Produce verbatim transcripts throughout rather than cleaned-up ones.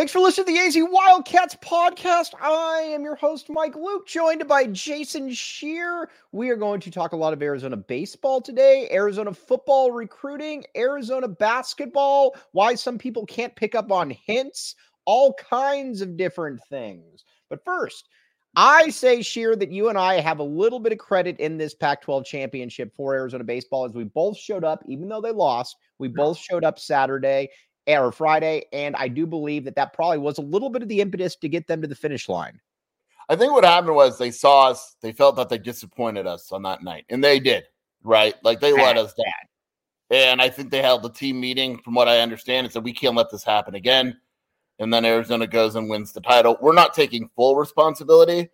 Thanks for listening to the A Z Wildcats podcast. I am your host, Mike Luke, joined by Jason Scheer. We are going to talk a lot of Arizona baseball today, Arizona football recruiting, Arizona basketball, why some people can't pick up on hints, all kinds of different things. But first, I say, Scheer, that you and I have a little bit of credit in this Pac twelve championship for Arizona baseball, as we both showed up, even though they lost. We both showed up Saturday or Friday, and I do believe that that probably was a little bit of the impetus to get them to the finish line. I think what happened was they saw us, they felt that they disappointed us on that night, and they did, right? Like, they let us down. And I think they held the team meeting, from what I understand, and said, we can't let this happen again. And then Arizona goes and wins the title. We're not taking full responsibility.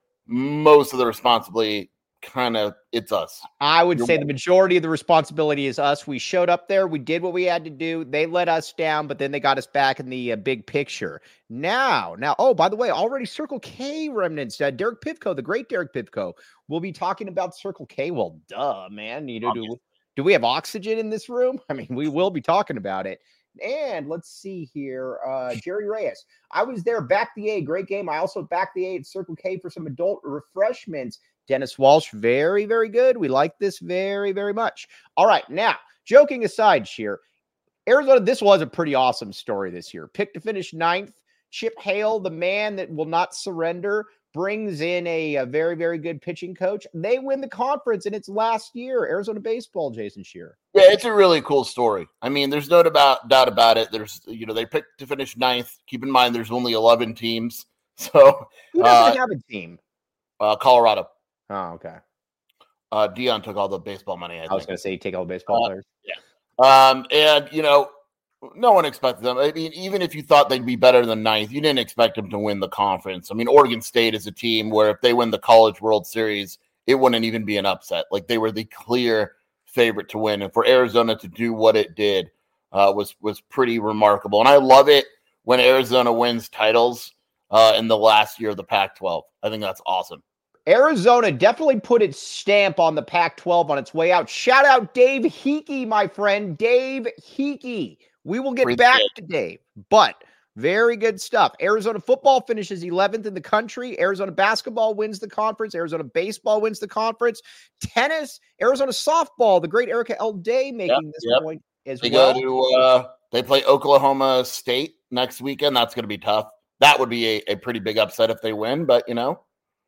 Most of the responsibility, kind of, it's us. I would You're say right. the majority of the responsibility is us. We showed up there. We did what we had to do. They let us down, but then they got us back in the uh, big picture. Now, now, oh, by the way, already Circle K remnants. Uh, Derek Pivko, the great Derek Pivko, we'll be talking about Circle K. Well, duh, man. You know, do, do we have oxygen in this room? I mean, we will be talking about it. And let's see here. Uh, Jerry Reyes. I was there, back the A. Great game. I also backed the A at Circle K for some adult refreshments. Dennis Walsh, very, very good. We like this very, very much. All right. Now, joking aside, Scheer, Arizona, this was a pretty awesome story this year. Picked to finish ninth. Chip Hale, the man that will not surrender, brings in a, a very, very good pitching coach. They win the conference in its last year. Arizona baseball, Jason Scheer. Yeah, it's a really cool story. I mean, there's no doubt, doubt about it. There's, you know, they picked to finish ninth. Keep in mind, there's only eleven teams. So Who doesn't uh, have a team? Uh, Colorado. Oh, okay. Uh, Dion took all the baseball money. I, I was going to say, take all the baseball uh, players. Yeah. Um, and, you know, no one expected them. I mean, even if you thought they'd be better than ninth, you didn't expect them to win the conference. I mean, Oregon State is a team where if they win the College World Series, it wouldn't even be an upset. Like, they were the clear favorite to win. And for Arizona to do what it did uh, was, was pretty remarkable. And I love it when Arizona wins titles uh, in the last year of the Pac twelve. I think that's awesome. Arizona definitely put its stamp on the Pac twelve on its way out. Shout out Dave Hickey, my friend. Dave Hickey. We will get Pretty back good. to Dave, but very good stuff. Arizona football finishes eleventh in the country. Arizona basketball wins the conference. Arizona baseball wins the conference. Tennis, Arizona softball, the great Erica L. Day making Yep, this yep. point as They well. go to uh, they play Oklahoma State next weekend. That's going to be tough. That would be a, a pretty big upset if they win, but you know.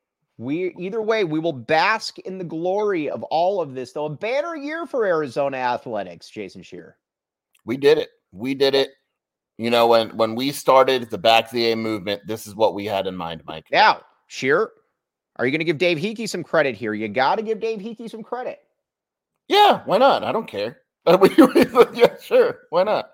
We either way, we will bask in the glory of all of this, though. A banner year for Arizona athletics, Jason Scheer. We did it. We did it. You know, when when we started the Back to the A movement, this is what we had in mind, Mike. Now, Scheer, are you going to give Dave Hickey some credit here? You got to give Dave Hickey some credit. Yeah, why not? I don't care. Yeah, sure. Why not?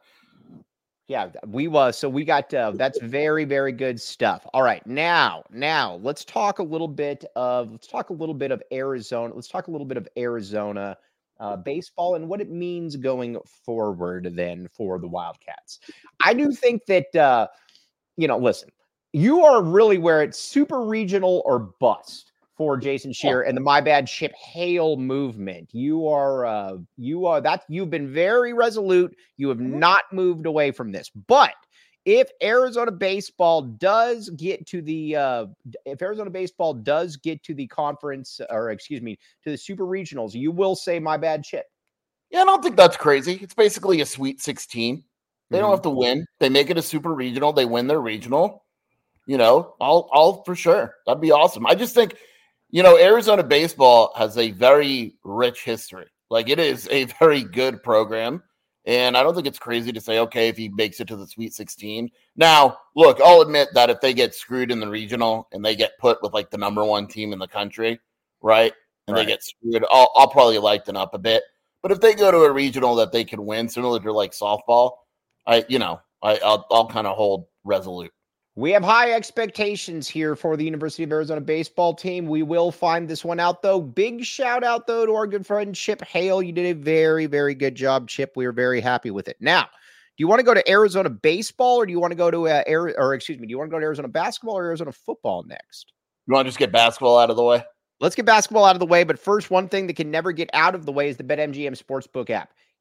Yeah, we was. So we got, uh, that's very, very good stuff. All right. Now, now let's talk a little bit of, let's talk a little bit of Arizona. Let's talk a little bit of Arizona uh, baseball and what it means going forward then for the Wildcats. I do think that, uh, you know, listen, you are really where it's super regional or bust for Jason Scheer and the My Bad Chip Hale movement. You are, uh, you are that you've been very resolute. You have not moved away from this. But if Arizona baseball does get to the, uh, if Arizona baseball does get to the conference, or excuse me, to the super regionals, you will say My Bad Chip. Yeah, I don't think that's crazy. It's basically a Sweet sixteen. They Mm-hmm. don't have to win. They make it a super regional. They win their regional. You know, I'll, I'll for sure. That'd be awesome. I just think, you know, Arizona baseball has a very rich history. Like, it is a very good program. And I don't think it's crazy to say, okay, if he makes it to the Sweet sixteen. Now, look, I'll admit that if they get screwed in the regional and they get put with like the number one team in the country, right? And Right. they get screwed, I'll, I'll probably lighten up a bit. But if they go to a regional that they can win, similar to like softball, I, you know, I, I'll, I'll kind of hold resolute. We have high expectations here for the University of Arizona baseball team. We will find this one out, though. Big shout out, though, to our good friend Chip Hale. You did a very, very good job, Chip. We are very happy with it. Now, do you want to go to Arizona baseball, or do you want to go to, uh, Air, or excuse me, do you want to go to Arizona basketball or Arizona football next? You want to just get basketball out of the way? Let's get basketball out of the way. But first, one thing that can never get out of the way is the BetMGM Sportsbook app.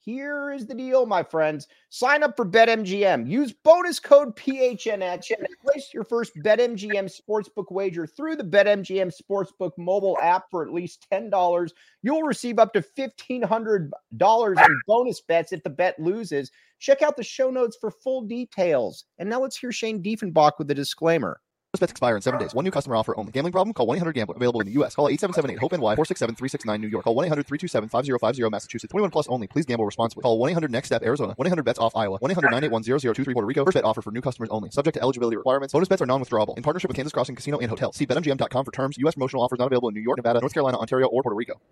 Here is the deal, my friends. Sign up for BetMGM. Use bonus code P H N X and place your first BetMGM sportsbook wager through the BetMGM Sportsbook mobile app for at least ten dollars. You'll receive up to fifteen hundred dollars in bonus bets if the bet loses. Check out the show notes for full details. And now let's hear Shane Diefenbach with the disclaimer. Bets expire in seven days. One new customer offer only. Gambling problem? Call one eight hundred gambler. Available in the U S. Call eight seven seven eight hope N Y four six seven three six nine New York. Call one eight hundred three two seven five zero five zero Massachusetts. twenty-one plus only. Please gamble responsibly. Call one eight hundred next step Arizona. one eight hundred bets off Iowa. one eight hundred nine eight one zero zero two three Puerto Rico. First bet offer for new customers only. Subject to eligibility requirements. Bonus bets are non-withdrawable. In partnership with Kansas Crossing Casino and Hotel. See bet M G M dot com for terms. U S promotional offers not available in New York, Nevada, North Carolina, Ontario, or Puerto Rico.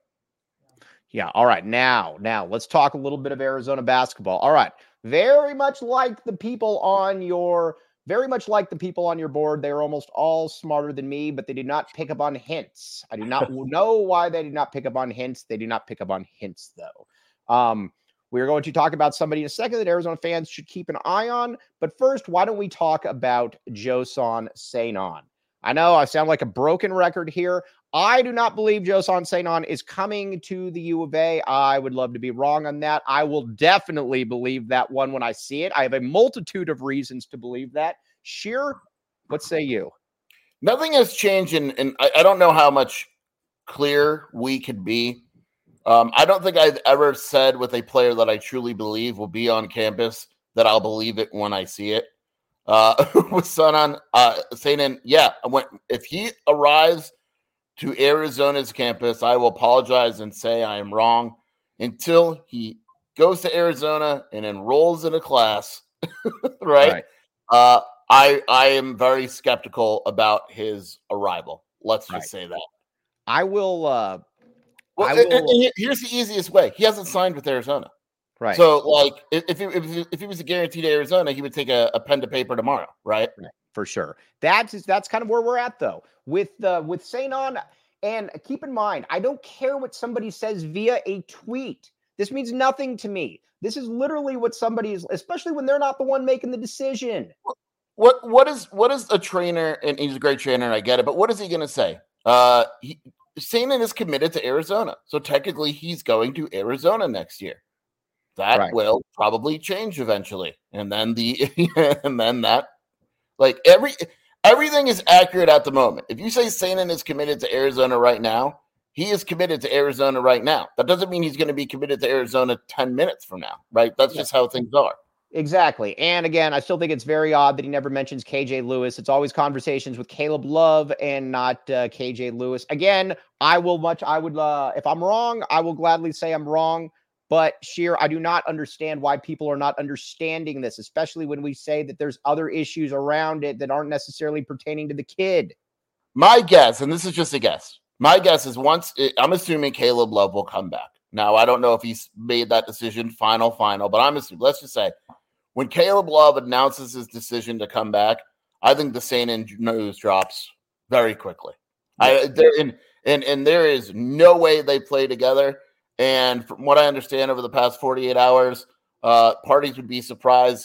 Yeah. All right. Now, now let's talk a little bit of Arizona basketball. All right. Very much like the people on your Very much like the people on your board, they are almost all smarter than me, but they did not pick up on hints. I do not know why they did not pick up on hints. They do not pick up on hints, though. Um, we are going to talk about somebody in a second that Arizona fans should keep an eye on. But first, why don't we talk about Joson Seinon? I know I sound like a broken record here. I do not believe Joson Seinon is coming to the U of A. I would love to be wrong on that. I will definitely believe that one when I see it. I have a multitude of reasons to believe that. Sheer, what say you? Nothing has changed, and and I, I don't know how much clearer we could be. Um, I don't think I've ever said with a player that I truly believe will be on campus that I'll believe it when I see it. Uh, with Seinon, uh, Seinon, yeah, when, if he arrives to Arizona's campus, I will apologize and say I am wrong until he goes to Arizona and enrolls in a class, right? right. Uh, I I am very skeptical about his arrival. Let's just right. say that. I will. Uh, well, I will... And, and here's the easiest way. He hasn't signed with Arizona. Right. So, like, if he, if he, if he was a guaranteed Arizona, he would take a, a pen to paper tomorrow, right? right? For sure. That's that's kind of where we're at, though, with uh, with Seinon. And keep in mind, I don't care what somebody says via a tweet. This means nothing to me. This is literally what somebody is, especially when they're not the one making the decision. What what is what is a trainer? And he's a great trainer, and I get it. But what is he going to say? Uh, he, Seinon is committed to Arizona, so technically he's going to Arizona next year. That right. will probably change eventually. And then the and then that like every everything is accurate at the moment. If you say Seinon is committed to Arizona right now, he is committed to Arizona right now. That doesn't mean he's going to be committed to Arizona ten minutes from now, right? That's yeah. just how things are. Exactly. And again, I still think it's very odd that he never mentions K J Lewis. It's always conversations with Caleb Love and not uh, K J Lewis. Again, I will much I would uh, if I'm wrong, I will gladly say I'm wrong. But Sheer, I do not understand why people are not understanding this, especially when we say that there's other issues around it that aren't necessarily pertaining to the kid. My guess, and this is just a guess, my guess is once it, I'm assuming Caleb Love will come back. Now, I don't know if he's made that decision final, final, but I'm assuming, let's just say when Caleb Love announces his decision to come back, I think the Seinon news drops very quickly. Yeah. I there and, and and there is no way they play together. And from what I understand over the past forty-eight hours, uh, parties would be surprised.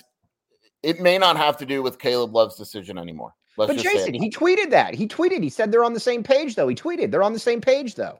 It may not have to do with Caleb Love's decision anymore. Let's but just Jason, he tweeted that. He tweeted. He said they're on the same page, though. He tweeted they're on the same page, though.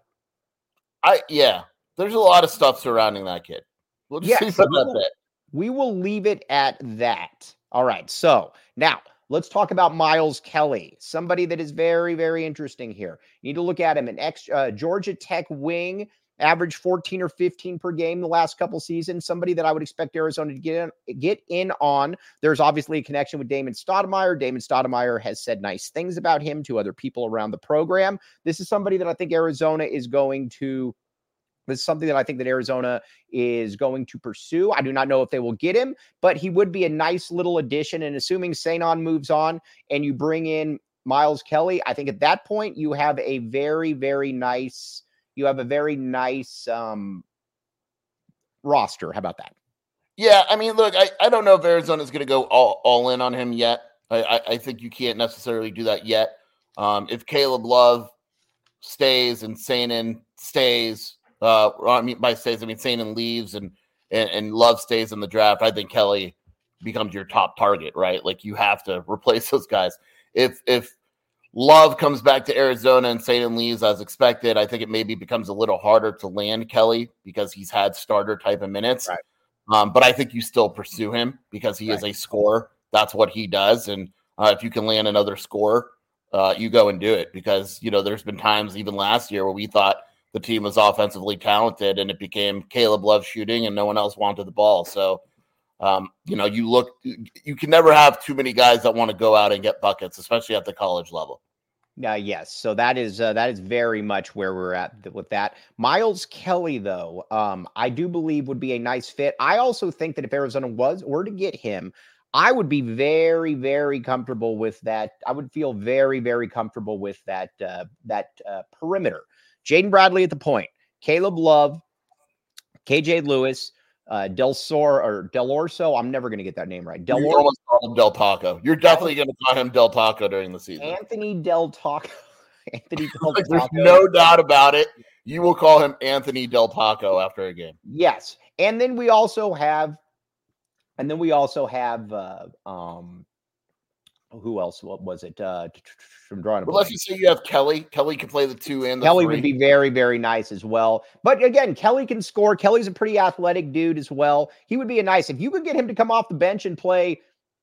I yeah. There's a lot of stuff surrounding that kid. We'll just yes, see about that bit. We will leave it at that. All right. So now let's talk about Miles Kelly, somebody that is very, very interesting here. You need to look at him, an ex uh, Georgia Tech wing. Average fourteen or fifteen per game the last couple seasons. Somebody that I would expect Arizona to get in, get in on. There's obviously a connection with Damon Stoudemire. Damon Stoudemire has said nice things about him to other people around the program. This is somebody that I think Arizona is going to This is something that I think that Arizona is going to pursue. I do not know if they will get him, but he would be a nice little addition. And assuming Seinon moves on and you bring in Miles Kelly, I think at that point you have a very, very nice You have a very nice um, roster. How about that? Yeah, I mean, look, I, I don't know if Arizona's going to go all, all in on him yet. I, I, I think you can't necessarily do that yet. Um, if Caleb Love stays and Seinon stays, uh, I mean, by stays, I mean Seinon leaves and, and, and Love stays in the draft, I think Kelly becomes your top target, right? Like you have to replace those guys. If if Love comes back to Arizona and Satan leaves as expected, I think it maybe becomes a little harder to land Kelly because he's had starter type of minutes. Right. Um, but I think you still pursue him because he Right. is a scorer. That's what he does. And uh, if you can land another scorer, uh, you go and do it because, you know, there's been times even last year where we thought the team was offensively talented and it became Caleb Love shooting and no one else wanted the ball. So, um, you know, you look, you can never have too many guys that want to go out and get buckets, especially at the college level. Uh, yes, so that is uh, that is very much where we're at th- with that. Miles Kelly, though, um, I do believe would be a nice fit. I also think that if Arizona was were to get him, I would be very, very comfortable with that. I would feel very, very comfortable with that uh, that uh, perimeter. Jaden Bradley at the point, Caleb Love, K J Lewis, uh, Del Sor or Del Orso. I'm never going to get that name right. Del You Or- almost call him Del Taco. You're definitely going to call him Del Taco during the season. Anthony Del Taco. Anthony Del Like, there's Taco. no doubt about it. You will call him Anthony Del Taco after a game. Yes. And then we also have, and then we also have, uh, um, who else? What was it? Uh, from drawing a Well, let's just say you have Kelly. Kelly can play the two and the Kelly three. would be very, very nice as well. But again, Kelly can score. Kelly's a pretty athletic dude as well. He would be a nice, if you could get him to come off the bench and play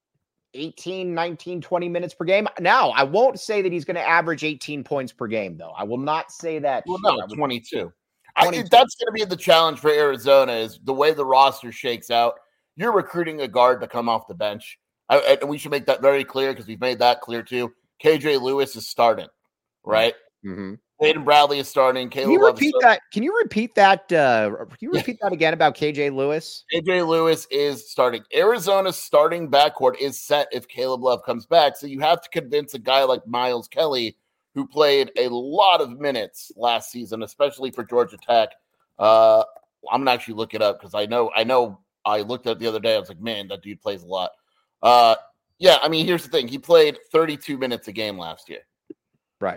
eighteen, nineteen, twenty minutes per game. Now, I won't say that he's going to average eighteen points per game, though. I will not say that. Well, here. no, I would- twenty-two. I, twenty-two. that's going to be the challenge for Arizona is the way the roster shakes out. You're recruiting a guard to come off the bench. I, and we should make that very clear because we've made that clear too. K J Lewis is starting, right? Mhm. Hayden Bradley is starting. Can Caleb you Love is repeat starting. that? Can you repeat that? Uh, can you repeat that again about K J Lewis? K J Lewis is starting. Arizona's starting backcourt is set if Caleb Love comes back. So you have to convince a guy like Miles Kelly, who played a lot of minutes last season, especially for Georgia Tech. Uh, I'm gonna actually look it up because I know I know I looked at it the other day. I was like, man, that dude plays a lot. Uh, yeah, I mean, here's the thing: he played thirty-two minutes a game last year. Right.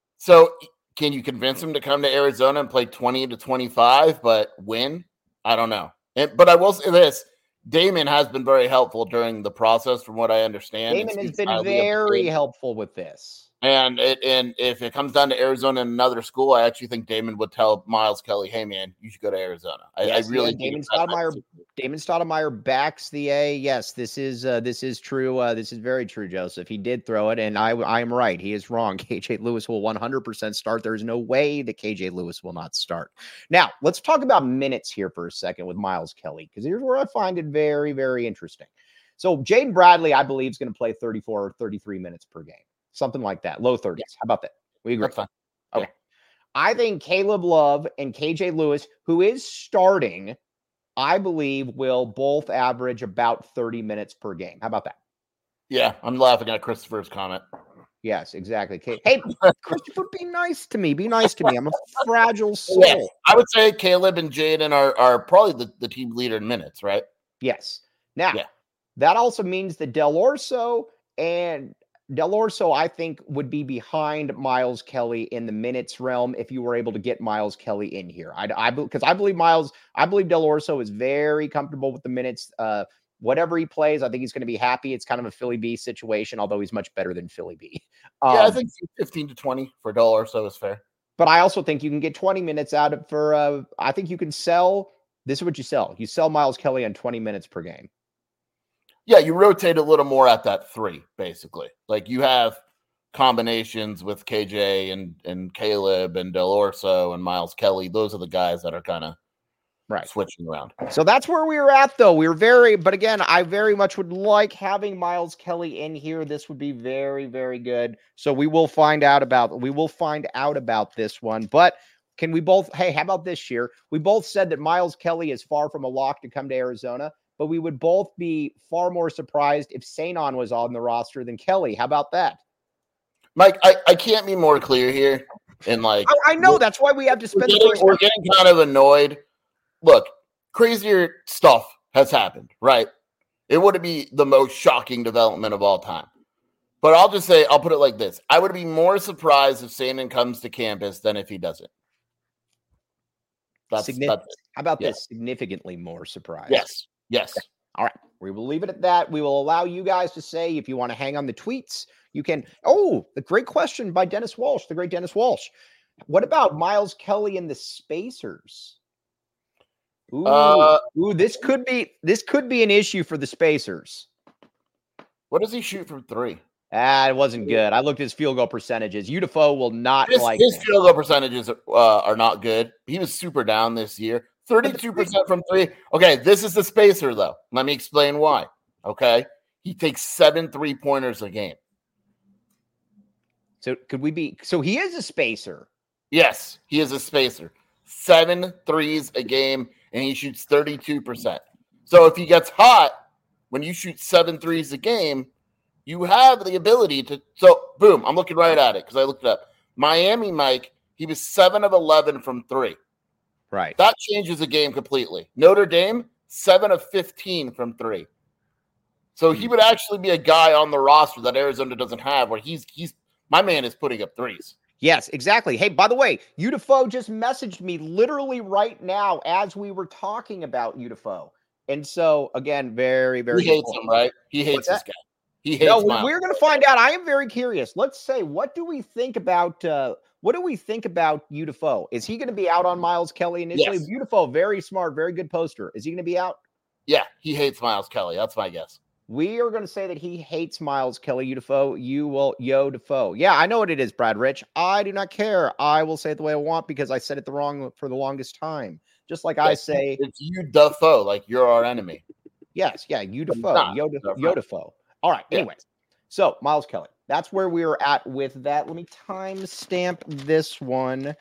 So can you convince him to come to Arizona and play twenty to twenty-five, but win? I don't know. And, but I will say this: Damon has been very helpful during the process, from what I understand. Damon has Speaks been highly of very Damon. helpful with this. And it, and if it comes down to Arizona and another school, I actually think Damon would tell Miles Kelly, "Hey, man, you should go to Arizona." I, Yes, I really yeah, think Damon it's that Stoudemire. type of- Damon Stoudemire backs the A. Yes, this is uh, this is true. Uh, this is very true, Joseph. He did throw it, and I I am right. He is wrong. K J Lewis will one hundred percent start. There is no way that K J Lewis will not start. Now, let's talk about minutes here for a second with Miles Kelly, because here's where I find it very, very interesting. So Jaden Bradley, I believe, is going to play thirty-four or thirty-three minutes per game. Something like that. Low thirties. Yeah. How about that? We agree. That's fine. Okay. I think Caleb Love and K J Lewis, who is starting, I believe will both average about thirty minutes per game. How about that? Yeah, I'm laughing at Christopher's comment. Yes, exactly. K- Hey, Christopher, be nice to me. Be nice to me. I'm a fragile soul. Yeah, I would say Caleb and Jaden are are probably the, the team leader in minutes, right? Yes. Now, Yeah. that also means that Del Orso and Del Orso, I think, would be behind Miles Kelly in the minutes realm if you were able to get Miles Kelly in here. I, I, because I believe Miles, I believe Del Orso is very comfortable with the minutes. Uh, whatever he plays, I think he's going to be happy. It's kind of a Philly B situation, although he's much better than Philly B. Um, Yeah, I think fifteen to twenty for a dollar or so is fair. But I also think you can get twenty minutes out of for. Uh, I think you can sell. This is what you sell. You sell Miles Kelly on twenty minutes per game. Yeah, you rotate a little more at that three, basically. Like you have combinations with K J and and Caleb and Del Orso and Miles Kelly. Those are the guys that are kind of Right. switching around. So that's where we were at, though. We were very, but again, I very much would like having Miles Kelly in here. This would be very, very good. So we will find out about, we will find out about this one. But can we both, hey, how about this year? We both said that Miles Kelly is far from a lock to come to Arizona, but we would both be far more surprised if Sanon was on the roster than Kelly. How about that? Mike, I, I can't be more clear here. And like, I, I know that's why we have to we're spend the getting, first we're getting kind of annoyed. Look, crazier stuff has happened, right? It wouldn't be the most shocking development of all time. But I'll just say, I'll put it like this. I would be more surprised if Sanon comes to campus than if he doesn't. That's, Significant. that's it. How about Yeah. this? Significantly more surprised. Yes. Yes. All right. We will leave it at that. We will allow you guys to say if you want to hang on the tweets. You can. Oh, the great question by Dennis Walsh, the great Dennis Walsh. What about Miles Kelly and the Spacers? Ooh, Uh, ooh, this could be this could be an issue for the Spacers. What does he shoot from three? Ah, it wasn't good. I looked at his field goal percentages. U D F O will not His, like his him. field goal percentages uh, are not good. He was super down this year. thirty-two percent from three. Okay, this is the spacer, though. Let me explain why. Okay, he takes seven three-pointers a game. So could we be? So he is a spacer. Yes, he is a spacer. Seven threes a game, and he shoots thirty-two percent. So if he gets hot, when you shoot seven threes a game, you have the ability to. So, boom, I'm looking right at it because I looked it up. Miami, Mike, he was seven of eleven from three. Right. That changes the game completely. Notre Dame, seven of fifteen from three. So he would actually be a guy on the roster that Arizona doesn't have where he's, he's my man is putting up threes. Yes, exactly. Hey, by the way, U D F O just messaged me literally right now as we were talking about U D F O. And so, again, very, very He hates important. him, right? He hates What's this that? guy. He hates No, Miles. we're going to find out. I am very curious. Let's say, what do we think about uh, what do we think about U D F O? Is he going to be out on Miles Kelly initially? Yes. U D F O, very smart, very good poster. Is he going to be out? Yeah, he hates Miles Kelly. That's my guess. We are going to say that he hates Miles Kelly. U D F O, you will Yo Defoe. Yeah, I know what it is, Brad Rich. I do not care. I will say it the way I want because I said it the wrong for the longest time. Just like I Yes, say, it's you, Defoe, like you're our enemy. yes, yeah, U D F O, not. Yo They're fine. Yo Defoe. All right. Yeah. Anyways, so Miles Kelly. That's where we were at with that. Let me timestamp this one.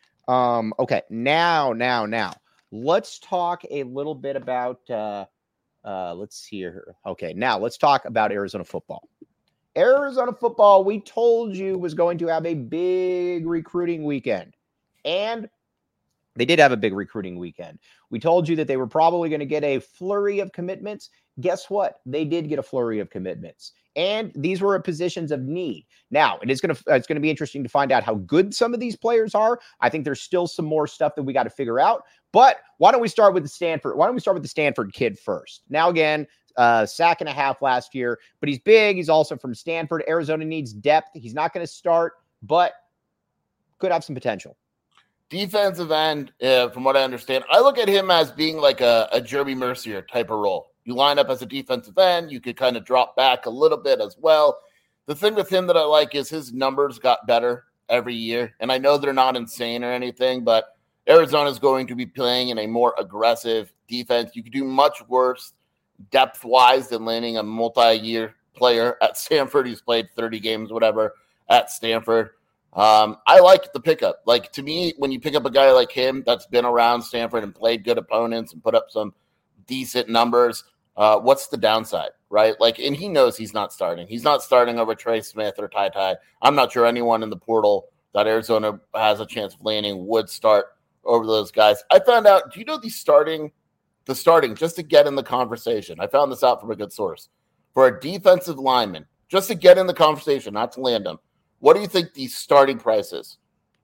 Um, okay, now, now, now, let's talk a little bit about. Uh, uh, let's see here. Okay, now let's talk about Arizona football. Arizona football, we told you was going to have a big recruiting weekend, and they did have a big recruiting weekend. We told you that they were probably going to get a flurry of commitments. Guess what? They did get a flurry of commitments. And these were positions of need. Now, it is going to it's going to be interesting to find out how good some of these players are. I think there's still some more stuff that we got to figure out. But why don't we start with the Stanford? Why don't we start with the Stanford kid first? Now, again, uh, sack and a half last year, but he's big. He's also from Stanford. Arizona needs depth. He's not going to start, but could have some potential. Defensive end, uh, from what I understand, I look at him as being like a, a Jeremy Mercier type of role. You line up as a defensive end, you could kind of drop back a little bit as well. The thing with him that I like is his numbers got better every year. And I know they're not insane or anything, but Arizona is going to be playing in a more aggressive defense. You could do much worse depth-wise than landing a multi-year player at Stanford who's played thirty games, whatever, at Stanford. Um, I like the pickup. Like, to me, when you pick up a guy like him that's been around Stanford and played good opponents and put up some decent numbers, uh, what's the downside, right? Like, and he knows he's not starting. He's not starting over Trey Smith or Ty Ty. I'm not sure anyone in the portal that Arizona has a chance of landing would start over those guys. I found out, do you know the starting, the starting, just to get in the conversation, I found this out from a good source, for a defensive lineman, just to get in the conversation, not to land them, what do you think the starting price is?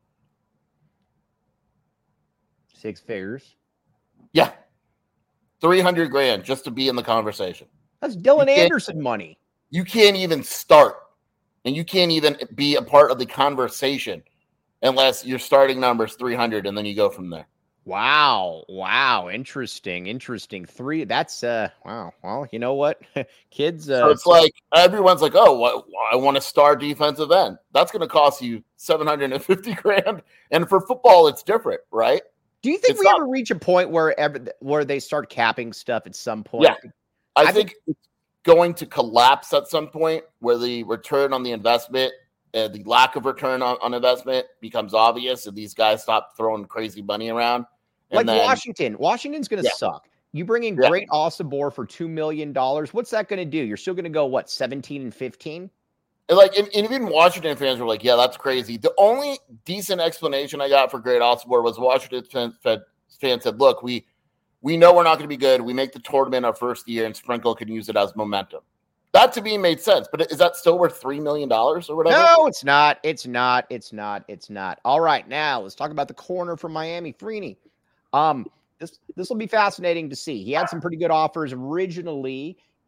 Six figures. Yeah. three hundred grand just to be in the conversation. That's Dylan You can't- Anderson money. You can't even start, and you can't even be a part of the conversation unless your starting number is three hundred, and then you go from there. Wow. Wow. Interesting. Interesting. Three. That's uh wow. Well, you know what? Kids uh So it's like everyone's like, oh, what, I want to start defensive end. That's going to cost you seven hundred fifty grand. And for football, it's different, right? do you think it's we not- ever reach a point where ever where they start capping stuff at some point? Yeah. I, I think it's going to collapse at some point where the return on the investment, uh, the lack of return on, on investment becomes obvious, and these guys stop throwing crazy money around. And Like then, Washington. Washington's going to Yeah. suck. You bring in Yeah. Great Osibor for two million dollars. What's that going to do? You're still going to go, what, seventeen and fifteen? and like, and, and even Washington fans were like, yeah, that's crazy. The only decent explanation I got for Great Osibor was Washington fans, fans said, look, we we know we're not going to be good. We make the tournament our first year, and Sprinkle can use it as momentum. That to me made sense. But is that still worth three million dollars or whatever? No, it's not. It's not. It's not. It's not. All right, now let's talk about the corner from Miami, Freeney. Um, this this will be fascinating to see. He had some pretty good offers originally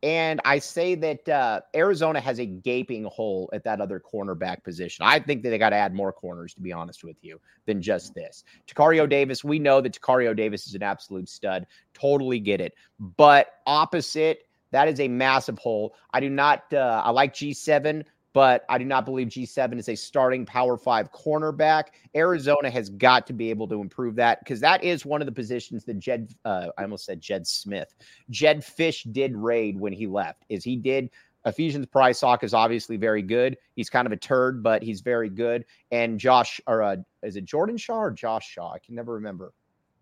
And I say that uh, Arizona has a gaping hole at that other cornerback position. I think that they got to add more corners, to be honest with you, than just this. Tacario Davis, we know that Tacario Davis is an absolute stud. Totally get it. But opposite, that is a massive hole. I do not, uh, I like G seven, but I do not believe G seven is a starting Power Five cornerback. Arizona has got to be able to improve that because that is one of the positions that Jed, uh, I almost said Jed Smith, Jed Fish did raid when he left. Is he did Ephesians Prysock is obviously very good. He's kind of a turd, but he's very good. And Josh, or uh, is it Jordan Shaw or Josh Shaw? I can never remember.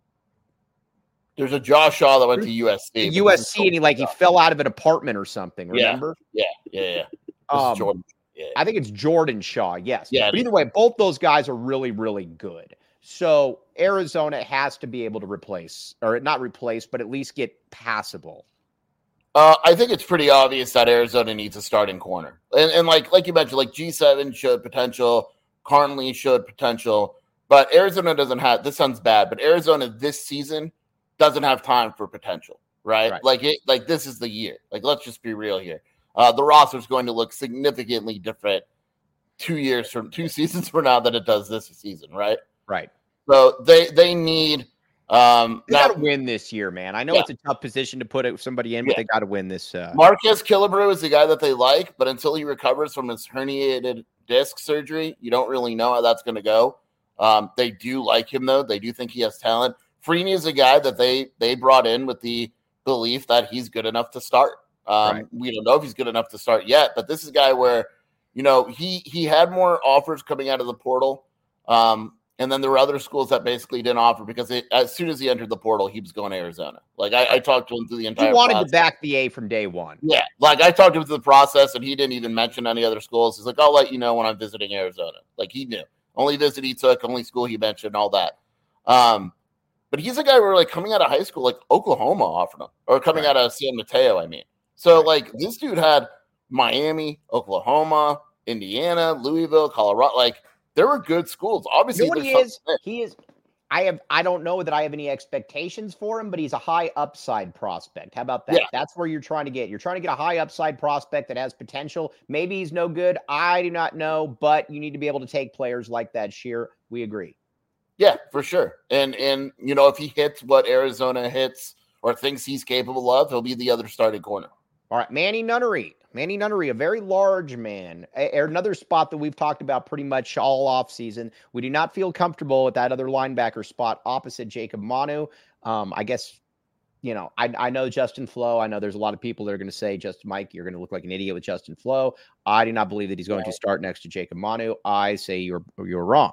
There's a Josh Shaw that went to U S C. U S C, and he like he fell out of an apartment or something. Remember? Yeah, yeah, yeah. yeah. Um, Jordan. Yeah. I think it's Jordan Shaw. Yes. Yeah. But either way, both those guys are really, really good. So Arizona has to be able to replace, or not replace, but at least get passable. Uh, I think it's pretty obvious that Arizona needs a starting corner, and, and like like you mentioned, like G seven showed potential, Carnley showed potential, but Arizona doesn't have. This sounds bad, but Arizona this season doesn't have time for potential, right? Right. Like it, like this is the year. Like let's just be real here. Uh, the roster is going to look significantly different two years from two seasons from now than it does this season, right? Right. So they they need. Um, They got to win this year, man. I know Yeah. it's a tough position to put somebody in, but Yeah. they got to win this. Uh, Marquez Killebrew is the guy that they like, but until he recovers from his herniated disc surgery, you don't really know how that's going to go. Um, they do like him, though. They do think he has talent. Freeney is a guy that they they brought in with the belief that he's good enough to start. Um, Right. We don't know if he's good enough to start yet, but this is a guy where, you know, he he had more offers coming out of the portal. Um, and then there were other schools that basically didn't offer because it, as soon as he entered the portal, he was going to Arizona. Like I, I talked to him through the entire he wanted process. to back the A from day one. Yeah, like I talked to him through the process, and he didn't even mention any other schools. He's like, "I'll let you know when I'm visiting Arizona." Like he knew, only visit he took, only school he mentioned, all that. Um, but he's a guy where, like, coming out of high school, like Oklahoma offered him, or coming Right. out of San Mateo. I mean, so Right. like this dude had Miami, Oklahoma, Indiana, Louisville, Colorado. Like there were good schools. Obviously, You know what he there's is? something He is. I have. I don't know that I have any expectations for him, but he's a high upside prospect. How about that? Yeah. That's where you're trying to get. You're trying to get a high upside prospect that has potential. Maybe he's no good. I do not know, but you need to be able to take players like that. Sheer. We agree. Yeah, for sure. And and you know, if he hits what Arizona hits or thinks he's capable of, he'll be the other starting corner. All right, Manny Nunnery. Manny Nunnery, a very large man. A- another spot that we've talked about pretty much all offseason. We do not feel comfortable with that other linebacker spot opposite Jacob Manu. Um, I guess, you know, I, I know Justin Flo. I know there's a lot of people that are going to say, just Mike, you're going to look like an idiot with Justin Flo. I do not believe that he's going to start next to Jacob Manu. I say you're you're wrong.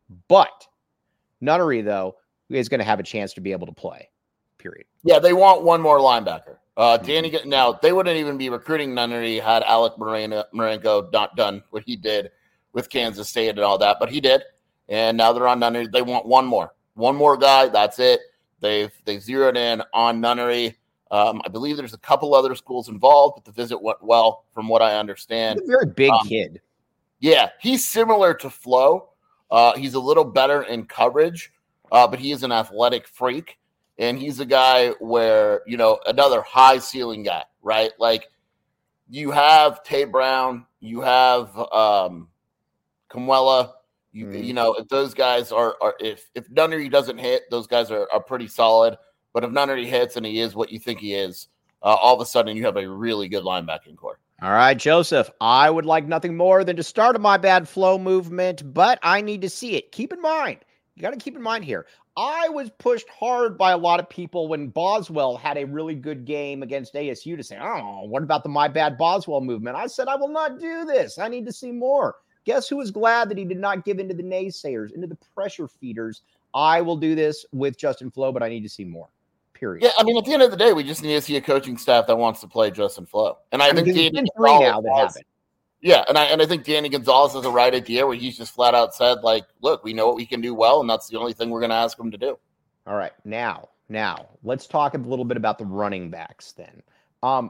But Nunnery, though, is going to have a chance to be able to play, period. Yeah, they want one more linebacker. Uh, Danny, now they wouldn't even be recruiting Nunnery had Alec Moreno, Marenko not done what he did with Kansas State and all that, but he did. And now they're on Nunnery. They want one more, one more guy. That's it. They've they've zeroed in on Nunnery. Um, I believe there's a couple other schools involved, but the visit went well, from what I understand. He's a very big Um, kid. Yeah, he's similar to Flo. Uh, he's a little better in coverage, uh, but he is an athletic freak. And he's a guy where, you know, another high ceiling guy, right? Like you have Tate Brown, you have um, Kamuela, you, Mhm. you know, if those guys are, are if, if Nunnery doesn't hit, those guys are, are pretty solid. But if Nunnery hits and he is what you think he is, uh, all of a sudden you have a really good linebacking core. All right, Joseph, I would like nothing more than to start a my bad flow movement, but I need to see it. Keep in mind, you got to keep in mind here. I was pushed hard by a lot of people when Boswell had a really good game against A S U to say, oh, what about the my bad Boswell movement? I said, I will not do this. I need to see more. Guess who was glad that he did not give into the naysayers, into the pressure feeders? I will do this with Justin Flo, but I need to see more. Period. Yeah, I mean, at the end of the day, we just need to see a coaching staff that wants to play Justin Flo. And I, I mean, think there's Danny been three now that Gonzalez- happened. Yeah, and I and I think Danny Gonzalez has a right idea where he's just flat out said, like, look, we know what we can do well, and that's the only thing we're going to ask him to do. All right, now, now let's talk a little bit about the running backs then. Um,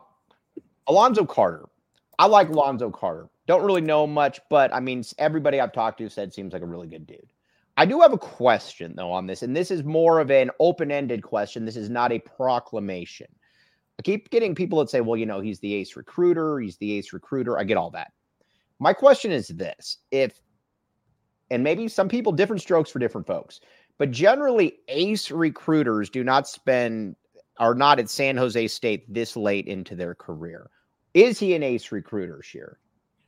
Alonzo Carter. I like Alonzo Carter. Don't really know him much, but I mean, everybody I've talked to said seems like a really good dude. I do have a question though on this, and this is more of an open-ended question. This is not a proclamation. I keep getting people that say, well, you know, he's the ace recruiter. He's the ace recruiter. I get all that. My question is this. If, and maybe some people, different strokes for different folks, but generally ace recruiters do not spend, are not at San Jose State this late into their career. Is he an ace recruiter, Scheer?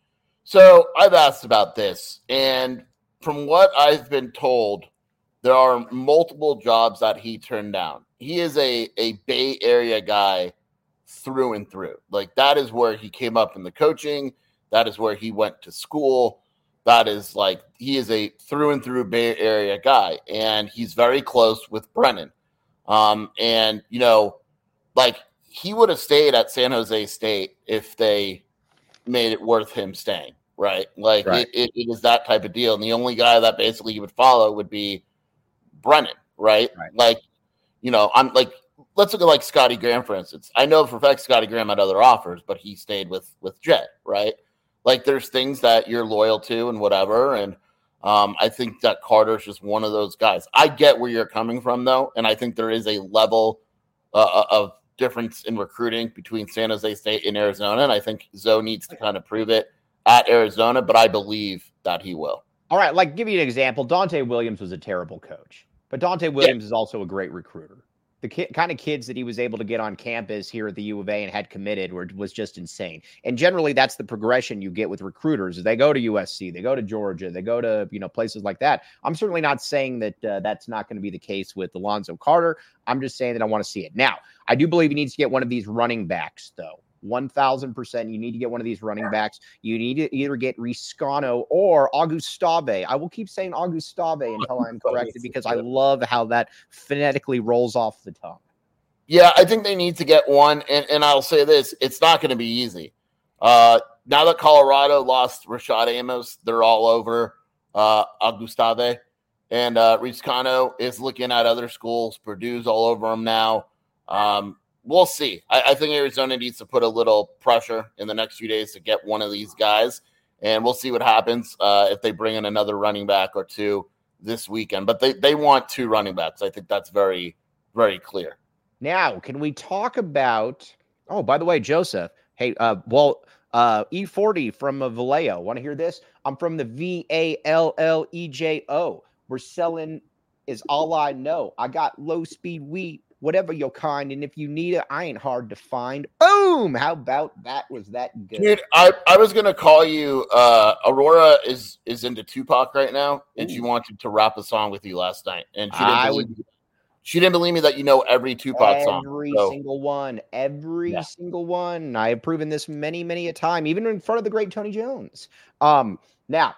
So I've asked about this, and from what I've been told, there are multiple jobs that he turned down. He is a, a Bay Area guy through and through. Like, that is where he came up in the coaching. That is where he went to school. That is like, he is a through and through Bay Area guy, and he's very close with Brennan. Um, and, you know, like, he would have stayed at San Jose State if they made it worth him staying, right? Like, right. It, it, it is that type of deal. And the only guy that basically he would follow would be Brennan, right? right? Like, you know, I'm like, let's look at like Scotty Graham, for instance. I know for a fact Scotty Graham had other offers, but he stayed with with Jet, right? Like, there's things that you're loyal to and whatever. And um, I think that Carter's just one of those guys. I get where you're coming from, though, and I think there is a level uh, of difference in recruiting between San Jose State and Arizona, and I think Zoe needs to kind of prove it at Arizona, but I believe that he will. All right, like, give you an example. Dante Williams was a terrible coach, but Dante Williams yeah. is also a great recruiter. The ki- kind of kids that he was able to get on campus here at the U of A and had committed were, was just insane. And generally, that's the progression you get with recruiters. They go to U S C, they go to Georgia, they go to, you know, places like that. I'm certainly not saying that uh, that's not going to be the case with Alonzo Carter. I'm just saying that I want to see it. Now, I do believe he needs to get one of these running backs, though. one thousand percent. You need to get one of these running backs. You need to either get Riscano or Augustave. I will keep saying Augustave until I'm corrected because I love how that phonetically rolls off the tongue. Yeah, I think they need to get one. And, and I'll say this, it's not going to be easy. Uh, now that Colorado lost Rashad Amos, they're all over uh, Augustave. And uh, Riscano is looking at other schools. Purdue's all over him now. Um, We'll see. I, I think Arizona needs to put a little pressure in the next few days to get one of these guys, and we'll see what happens uh, if they bring in another running back or two this weekend. But they, they want two running backs. I think that's very, very clear. Now, can we talk about – oh, by the way, Joseph, hey, uh, well, uh, E forty from uh, Vallejo. Want to hear this? I'm from the V A L L E J O. We're selling is all I know. I got low-speed wheat. Whatever your kind, and if you need it, I ain't hard to find. Boom! How about that? Was that good? Dude, I, I was gonna call you. Uh, Aurora is is into Tupac right now, and Ooh. She wanted to rap a song with you last night, and she didn't I believe would. Me. She didn't believe me that you know every Tupac every song. Every so. single one, every yeah. single one. I have proven this many, many a time, even in front of the great Tony Jones. Um, now,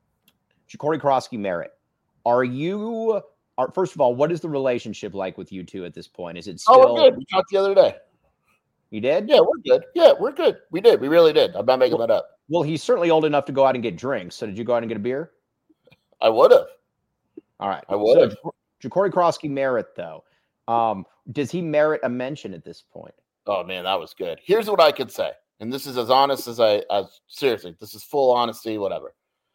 Ja'Cory Krosky Merritt, are you? Are, first of all, what is the relationship like with you two at this point? Is it still? Oh, we're good. We talked the other day. You did? Yeah, we're good. Yeah, we're good. We did. We really did. I'm not making well, that up. Well, he's certainly old enough to go out and get drinks. So did you go out and get a beer? I would have. All right. I would have. So, Ja'Cory Krosky Merritt, though, um, does he merit a mention at this point? Oh, man, that was good. Here's what I could say. And this is as honest as I, as seriously, this is full honesty, whatever.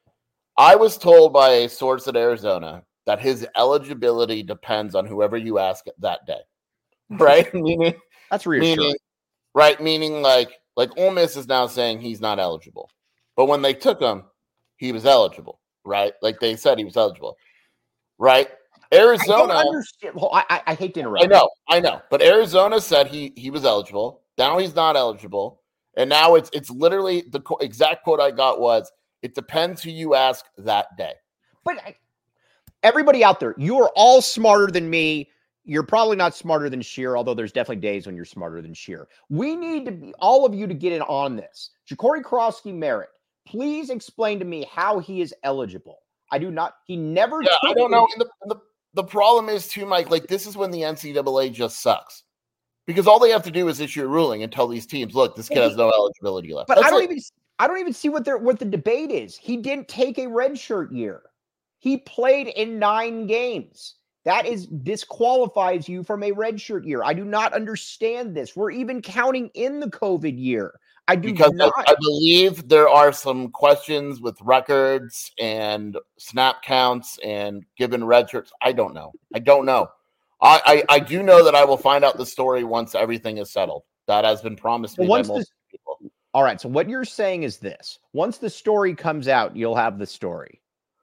I was told by a source at Arizona that his eligibility depends on whoever you ask that day, right? meaning that's reassuring, meaning, right? Meaning, like, like Ole Miss is now saying he's not eligible, but when they took him, he was eligible, right? Like they said he was eligible, right? Arizona, I, don't understand. Well, I, I, I hate to interrupt. I know, I know, but Arizona said he he was eligible. Now he's not eligible, and now it's it's literally the co- exact quote I got was, "It depends who you ask that day." But. I, Everybody out there, you are all smarter than me. You're probably not smarter than Scheer, although there's definitely days when you're smarter than Scheer. We need to be, all of you to get in on this. Ja'Cory Krosky Merritt, please explain to me how he is eligible. I do not, he never. Yeah, I don't know. And the, the, the problem is too, Mike, like this is when the N C double A just sucks. Because all they have to do is issue a ruling and tell these teams, look, this kid has no eligibility left. But That's I don't like, even, I don't even see what their what the debate is. He didn't take a redshirt year. He played in nine games. That is disqualifies you from a redshirt year. I do not understand this. We're even counting in the COVID year. I do because not. I, I believe there are some questions with records and snap counts and given redshirts. I don't know. I don't know. I, I, I do know that I will find out the story once everything is settled. That has been promised So me by once multiple this, people. all right. So what you're saying is this: once the story comes out, you'll have the story.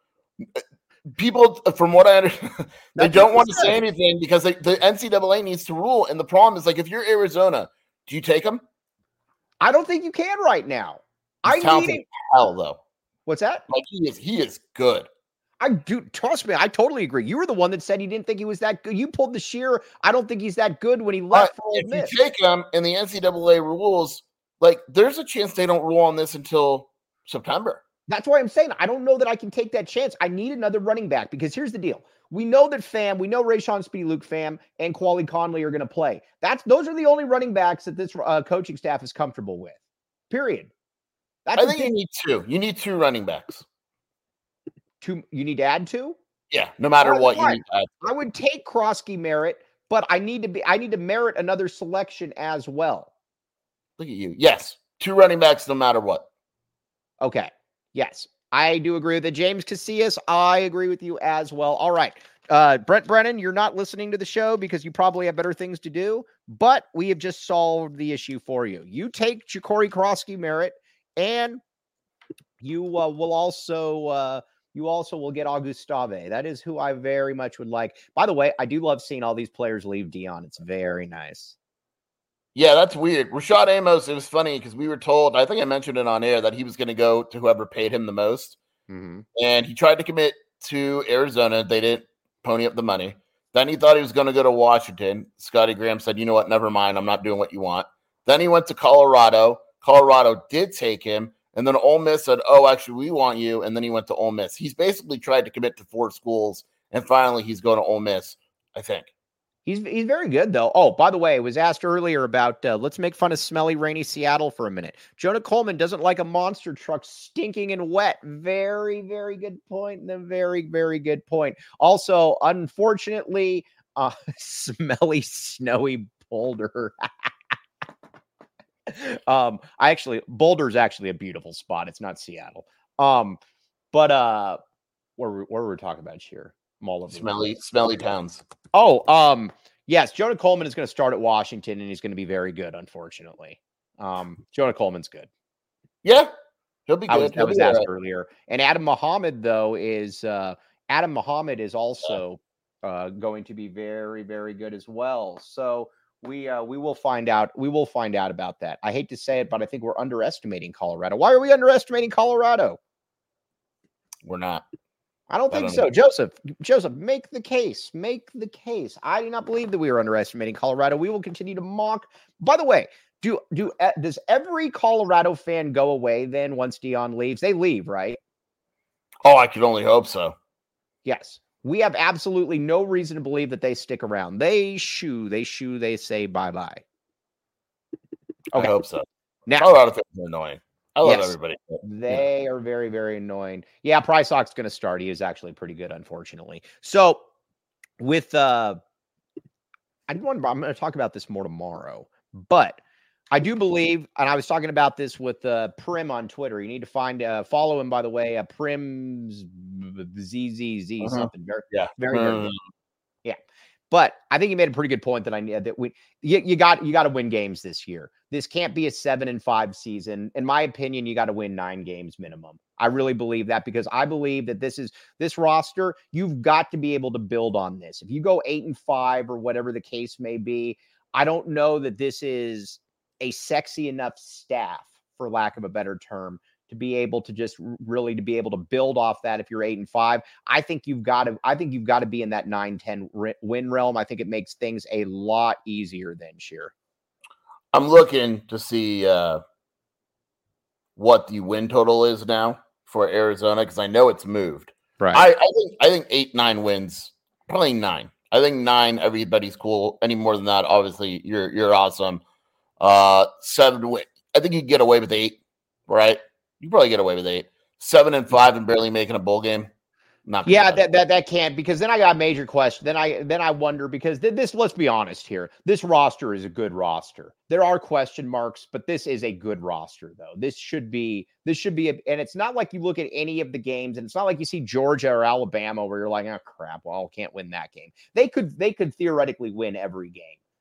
People, from what I understand, they That's don't what want they to say said. anything because they, the N C double A needs to rule. And the problem is, like, if you're Arizona, do you take him? I don't think you can right now. He's I talented need as hell, though. What's that? Like, he is, he is good. I do trust me. I totally agree. You were the one that said you didn't think he was that good. You pulled the sheer. I don't think he's that good when he left But for Ole if Miss. you take him and the N C double A rules, like, there's a chance they don't rule on this until September. That's why I'm saying I don't know that I can take that chance. I need another running back because here's the deal. We know that Fam, we know Rayshon Speedy Luke Fam and Quali Conley are going to play. That's those are the only running backs that this uh, coaching staff is comfortable with. Period. That's I a think big, you need two. You need two running backs. two. You need to add two. Yeah, no matter All what, right, you need to add. I would take Krosky Merritt, but I need to be. I need to merit another selection as well. Look at you. Yes, two running backs, no matter what. Okay. Yes, I do agree with that. James Casillas, I agree with you as well. All right. Uh, Brent Brennan, you're not listening to the show because you probably have better things to do, but we have just solved the issue for you. You take Ja'Cory Krosky Merritt, and you uh, will also uh, you also will get Augustave. That is who I very much would like. By the way, I do love seeing all these players leave Dion. It's very nice. Yeah, that's weird. Rashad Amos, it was funny because we were told, I think I mentioned it on air, that he was going to go to whoever paid him the most. Mm-hmm. And he tried to commit to Arizona. They didn't pony up the money. Then he thought he was going to go to Washington. Scotty Graham said, you know what, never mind. I'm not doing what you want. Then he went to Colorado. Colorado did take him. And then Ole Miss said, oh, actually, we want you. And then he went to Ole Miss. He's basically tried to commit to four schools. And finally, he's going to Ole Miss, I think. He's he's very good, though. Oh, by the way, I was asked earlier about uh, let's make fun of smelly, rainy Seattle for a minute. Jonah Coleman doesn't like a monster truck stinking and wet. Very, very good point. And a very, very good point. Also, unfortunately, uh, smelly, snowy Boulder. um, I actually, Boulder is actually a beautiful spot. It's not Seattle. Um, but uh, where where were we talking about here? Smelly, smelly towns. Oh, um, yes, Jonah Coleman is going to start at Washington, and he's going to be very good, unfortunately. Um, Jonah Coleman's good. Yeah, he'll be good. I was, he'll I was be asked right. earlier. And Adam Muhammad, though, is uh, Adam Muhammad is also uh, going to be very, very good as well. So we uh, we will find out. We will find out about that. I hate to say it, but I think we're underestimating Colorado. Why are we underestimating Colorado? We're not. I don't think I don't so. Know. Joseph, Joseph, make the case. Make the case. I do not believe that we are underestimating Colorado. We will continue to mock. By the way, do do uh, does every Colorado fan go away then once Dion leaves? They leave, right? Oh, I could only hope so. Yes. We have absolutely no reason to believe that they stick around. They shoo, they shoo, they say bye-bye. Okay. I hope so. Now, Colorado fans are annoying. I love yes, everybody. They yeah. are very, very annoying. Yeah, Price Hawk's going to start. He is actually pretty good, unfortunately. So, with uh, I do want. I'm going to talk about this more tomorrow, but I do believe, and I was talking about this with uh, Prim on Twitter. You need to find, uh, follow him, by the way. Uh, Prim's Z Z Z uh-huh. something very, yeah, very, uh-huh. very good. Yeah. But I think you made a pretty good point that I that we you, you got you got to win games this year. This can't be a seven and five season. In my opinion, you got to win nine games minimum. I really believe that because I believe that this is this roster. You've got to be able to build on this. If you go eight and five or whatever the case may be, I don't know that this is a sexy enough staff, for lack of a better term, to be able to just really to be able to build off that. If you're eight and five, I think you've got to, I think you've got to be in that nine, ten win realm. I think it makes things a lot easier than Sheer. I'm looking to see uh, what the win total is now for Arizona, because I know it's moved. Right. I, I think, I think eight, nine wins, probably nine. I think nine, everybody's cool. Any more than that, obviously you're, you're awesome. Uh, seven, I think you get away with eight, right? You probably get away with eight, seven and five, and barely making a bowl game. Not yeah, that, that that can't, because then I got a major question. Then I then I wonder because th- this. Let's be honest here. This roster is a good roster. There are question marks, but this is a good roster, though. This should be this should be, a, and it's not like you look at any of the games, and it's not like you see Georgia or Alabama where you're like, oh crap, well, can't win that game. They could they could theoretically win every game.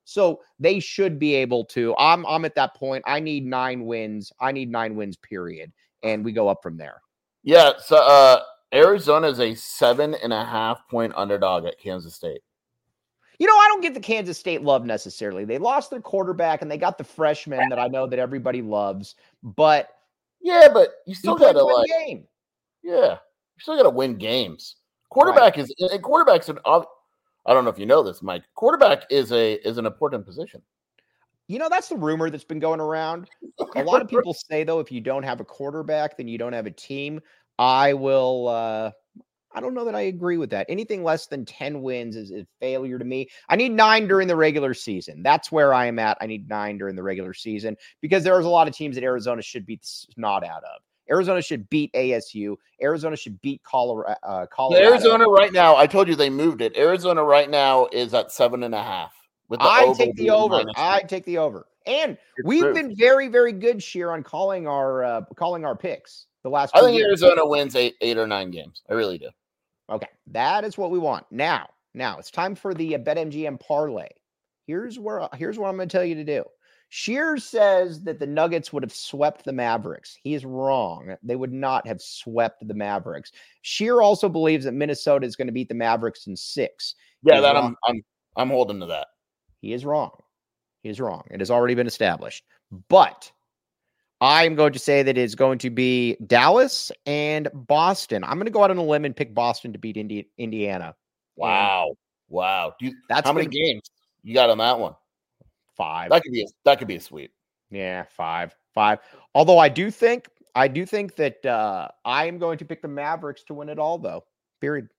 So they should be able to. I'm I'm at that point. I need nine wins. I need nine wins, period. And we go up from there. Yeah. So uh, Arizona is a seven and a half point underdog at Kansas State. You know, I don't get the Kansas State love necessarily. They lost their quarterback and they got the freshman that I know that everybody loves. But yeah, but you still got to like game. Yeah, you still got to win games. Quarterback right. is and quarterback's an. I don't know if you know this, Mike. Quarterback is a is an important position. You know, that's the rumor that's been going around. A lot of people say, though, if you don't have a quarterback, then you don't have a team. I will. Uh, I don't know that I agree with that. Anything less than ten wins is a failure to me. I need nine during the regular season. That's where I am at. I need nine during the regular season because there's a lot of teams that Arizona should beat the snot out of. Arizona should beat A S U. Arizona should beat Colorado. Uh, Colorado. Arizona right now, I told you they moved it. Arizona right now is at seven and a half. With the I take the over. I take the over. And it's we've true. been very, very good, Sheer, on calling our uh, calling our picks the last. I think years. Arizona wins eight, eight or nine games. I really do. Okay, that is what we want. Now, now it's time for the uh, BetMGM parlay. Here's where here's what I'm going to tell you to do. Shears says that the Nuggets would have swept the Mavericks. He is wrong. They would not have swept the Mavericks. Shear also believes that Minnesota is going to beat the Mavericks in six. Yeah, that I'm I'm I'm holding to that. He is wrong. He is wrong. It has already been established. But I'm going to say that it is going to be Dallas and Boston. I'm going to go out on a limb and pick Boston to beat Indi- Indiana. Wow. And wow. Do you, that's how many gonna, games you got on that one? Five. That could be a, that could be a sweep. Yeah, five. Five. Although I do think I do think that uh, I am going to pick the Mavericks to win it all, though. Period.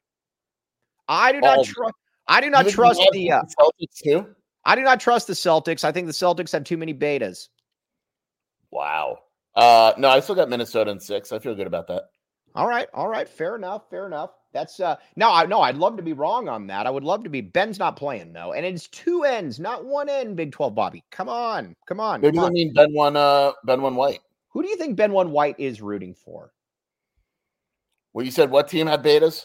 I do not trust I do not trust the uh, Celtics too. I do not trust the Celtics. I think the Celtics have too many betas. Wow. Uh, no, I still got Minnesota in six. I feel good about that. All right. All right. Fair enough. Fair enough. That's uh no, I no, I'd love to be wrong on that. I would love to be. Ben's not playing though, and it's two ends, not one end. Big twelve, Bobby. Come on, come on. Maybe they mean Ben one. Uh, Ben one White. Who do you think Ben one White is rooting for? Well, you said what team had betas?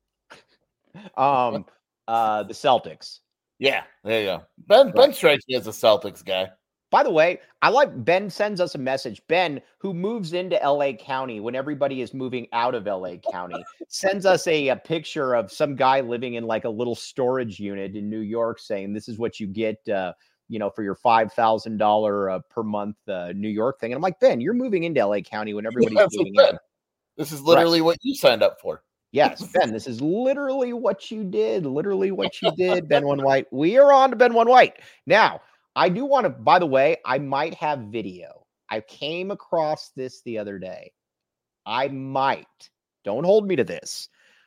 um, uh, the Celtics. Yeah, there you go. Ben right. Ben strikes me as a Celtics guy. By the way, I like Ben sends us a message. Ben, who moves into L A County when everybody is moving out of L A County, sends us a, a picture of some guy living in like a little storage unit in New York saying, this is what you get, uh, you know, for your five thousand dollars uh, per month uh, New York thing. And I'm like, Ben, you're moving into L A County when everybody's yeah, moving in. This is literally right. what you signed up for. Yes, Ben, this is literally what you did. Literally what you did, Ben one White. We are on to Ben one White. Now, I do want to, by the way, I might have video. I came across this the other day. I might, don't hold me to this.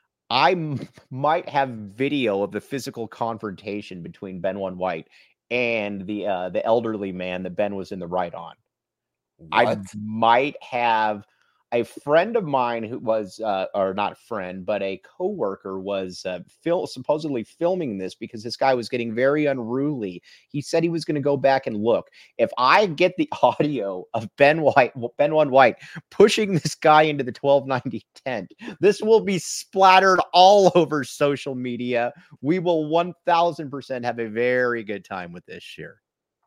I m- might have video of the physical confrontation between Ben one White and the uh, the elderly man that Ben was in the right on. What? I might have a friend of mine who was, uh, or not friend, but a coworker was uh, fil- supposedly filming this because this guy was getting very unruly. He said he was going to go back and look. If I get the audio of Ben White, Ben one White pushing this guy into the twelve ninety tent, this will be splattered all over social media. We will one thousand percent have a very good time with this year.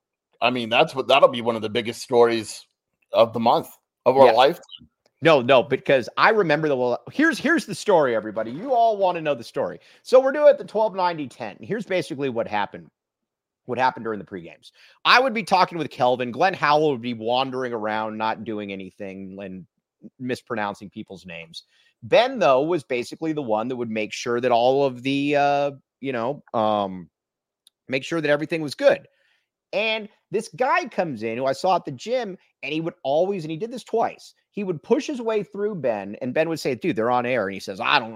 I mean, that's what that'll be one of the biggest stories of the month of our yes. lifetime. No, no, because I remember the well, here's here's the story, everybody. You all want to know the story. So we're doing the twelve ninety ten. Here's basically what happened. What happened during the pregames. I would be talking with Kelvin. Glenn Howell would be wandering around, not doing anything and mispronouncing people's names. Ben, though, was basically the one that would make sure that all of the uh, you know, um, make sure that everything was good. And this guy comes in who I saw at the gym, and he would always, and he did this twice. He would push his way through Ben, and Ben would say, dude, they're on air. And he says, I don't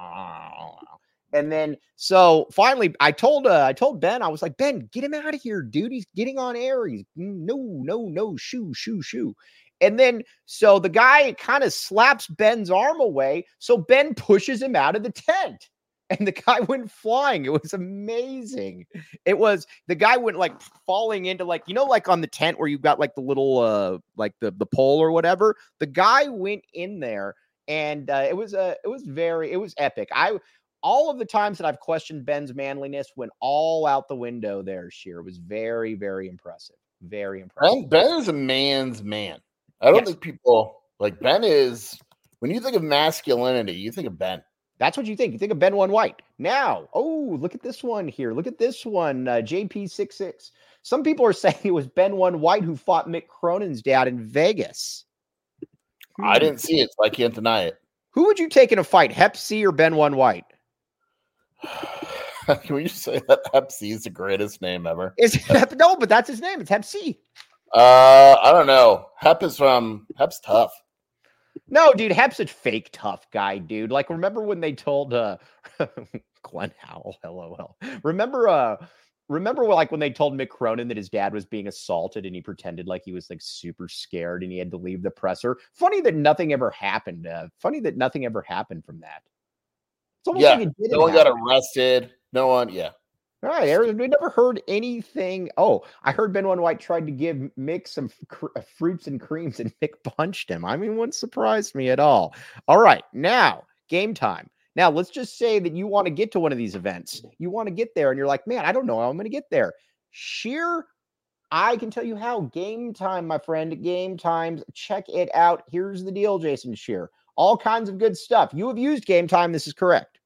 know. And then, so finally, I told, uh, I told Ben, I was like, Ben, get him out of here, dude. He's getting on air. He's no, no, no, shoo, shoo, shoo. And then, so the guy kind of slaps Ben's arm away. So Ben pushes him out of the tent. And the guy went flying. It was amazing. It was, the guy went like falling into like, you know, like on the tent where you've got like the little, uh, like the, the pole or whatever. The guy went in there and uh, it was, uh, it was very, it was epic. I, all of the times that I've questioned Ben's manliness went all out the window there, Sheer. It was very, very impressive. Very impressive. Ben, Ben is a man's man. I don't Yes. think people like Ben is, when you think of masculinity, you think of Ben. That's what you think. You think of Ben One White. Now, oh, look at this one here. Look at this one, uh, J P sixty-six. Some people are saying it was Ben One White who fought Mick Cronin's dad in Vegas. I Hmm. didn't see it, so I can't deny it. Who would you take in a fight, Hep C or Ben One White? Can we just say that Hep C is the greatest name ever? Is Hep, no, but that's his name. It's Hep C. Uh, I don't know. Hep is from Hep's tough. No, dude, Hep's a fake tough guy, dude. Like, remember when they told uh Glenn Howell, LOL. Remember, uh, remember like when they told Mick Cronin that his dad was being assaulted and he pretended like he was like super scared and he had to leave the presser. Funny that nothing ever happened. Uh, funny that nothing ever happened from that. It's almost Yeah, like it didn't no one happen. got arrested. No one, yeah. All right, Aaron, we never heard anything. Oh, I heard Ben One White tried to give Mick some cr- fruits and creams, and Mick punched him. I mean, wouldn't surprise me at all. All right, now game time. Now let's just say that you want to get to one of these events. You want to get there, and you're like, man, I don't know how I'm going to get there. Sheer, I can tell you how. Game time, my friend. Game times. Check it out. Here's the deal, Jason Sheer. All kinds of good stuff. You have used Game Time. This is correct.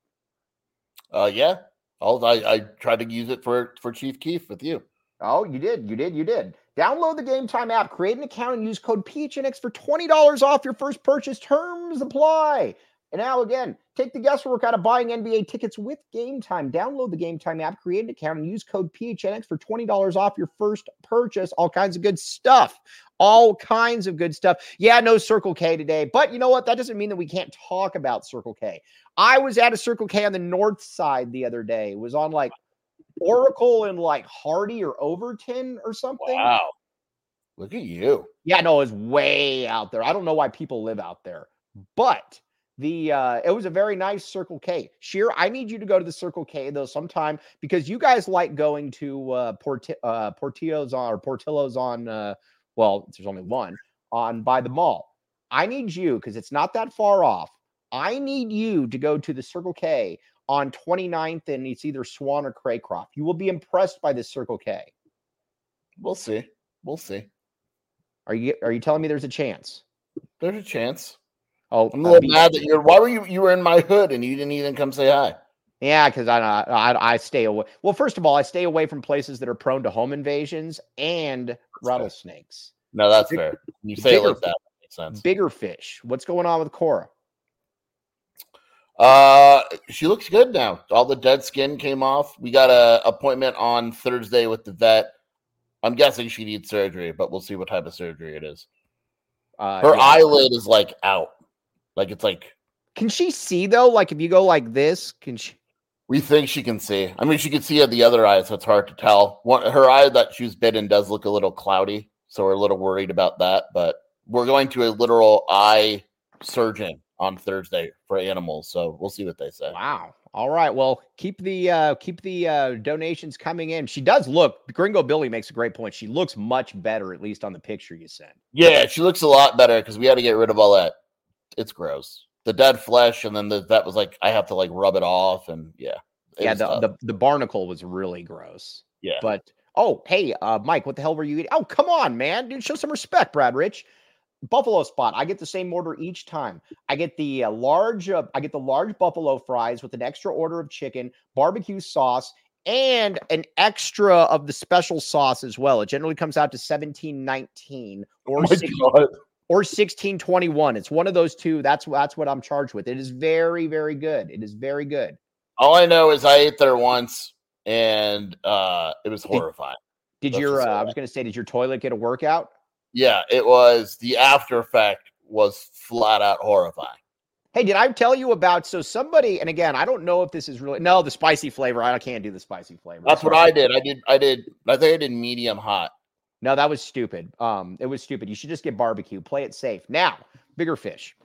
Uh, yeah. I'll, I I tried to use it for for Chief Keef with you. Oh, you did. You did. You did. Download the Game Time app, create an account, and use code P H N X for twenty dollars off your first purchase. Terms apply. And now, again, take the guesswork out of buying N B A tickets with Game Time. Download the Game Time app, create an account, and use code P H N X for twenty dollars off your first purchase. All kinds of good stuff. All kinds of good stuff. Yeah, no Circle K today. But you know what? That doesn't mean that we can't talk about Circle K. I was at a Circle K on the north side the other day. It was on like Oracle and like Hardy or Overton or something. Wow. Look at you. Yeah, no, it was way out there. I don't know why people live out there. But the uh it was a very nice Circle K. Sheer, I need you to go to the Circle K though sometime because you guys like going to uh, Port uh Portillo's on or Portillo's on uh well, there's only one on by the mall. I need you because it's not that far off. I need you to go to the Circle K on twenty-ninth and it's either Swan or Craycroft. You will be impressed by this Circle K. We'll see. We'll see. Are you are you telling me there's a chance? There's a chance. Oh, I'm a uh, little be- mad that you're. Why were you? You were in my hood and you didn't even come say hi. Yeah, because I, I I stay away. Well, first of all, I stay away from places that are prone to home invasions and rattlesnakes. No, that's Big- fair. You say it bigger- like that, that makes sense. Bigger fish. What's going on with Cora? Uh, she looks good now. All the dead skin came off. We got a appointment on Thursday with the vet. I'm guessing she needs surgery, but we'll see what type of surgery it is. Uh, Her yeah. eyelid is like out, like it's like Can she see though? Like if you go like this, can she? we think she can see. I mean, she can see at the other eye, so it's hard to tell. One, her eye that she was bitten does look a little cloudy, so we're a little worried about that. But we're going to a literal eye surgeon on Thursday for animals, so we'll see what they say. Wow. All right. Well, keep the uh keep the uh donations coming in. She does look. Gringo Billy makes a great point. She looks much better, at least on the picture you sent. Yeah, she looks a lot better because we had to get rid of all that. It's gross. The dead flesh, and then the, that was like I have to like rub it off, and yeah, it Yeah, was the, tough. the the barnacle was really gross. yeah. But oh, hey, uh, Mike, what the hell were you eating? Oh, come on, man, dude, show some respect, Brad Rich. Buffalo spot. I get the same order each time. I get the uh, large. Uh, I get the large buffalo fries with an extra order of chicken, barbecue sauce, and an extra of the special sauce as well. It generally comes out to seventeen nineteen Oh or my six, God. or sixteen twenty-one. It's one of those two. That's that's what I'm charged with. It is very very good. It is very good. All I know is I ate there once, and uh, it was horrifying. Did Let's your? just Uh, say I that. was going to say, did your toilet get a workout? Yeah, it was. The after effect was flat out horrifying. Hey, did I tell you about so somebody? And again, I don't know if this is really no the spicy flavor. I can't do the spicy flavor. That's what Sorry. I did. I did. I did. I think I did medium hot. No, that was stupid. Um, it was stupid. You should just get barbecue. Play it safe. Now, bigger fish.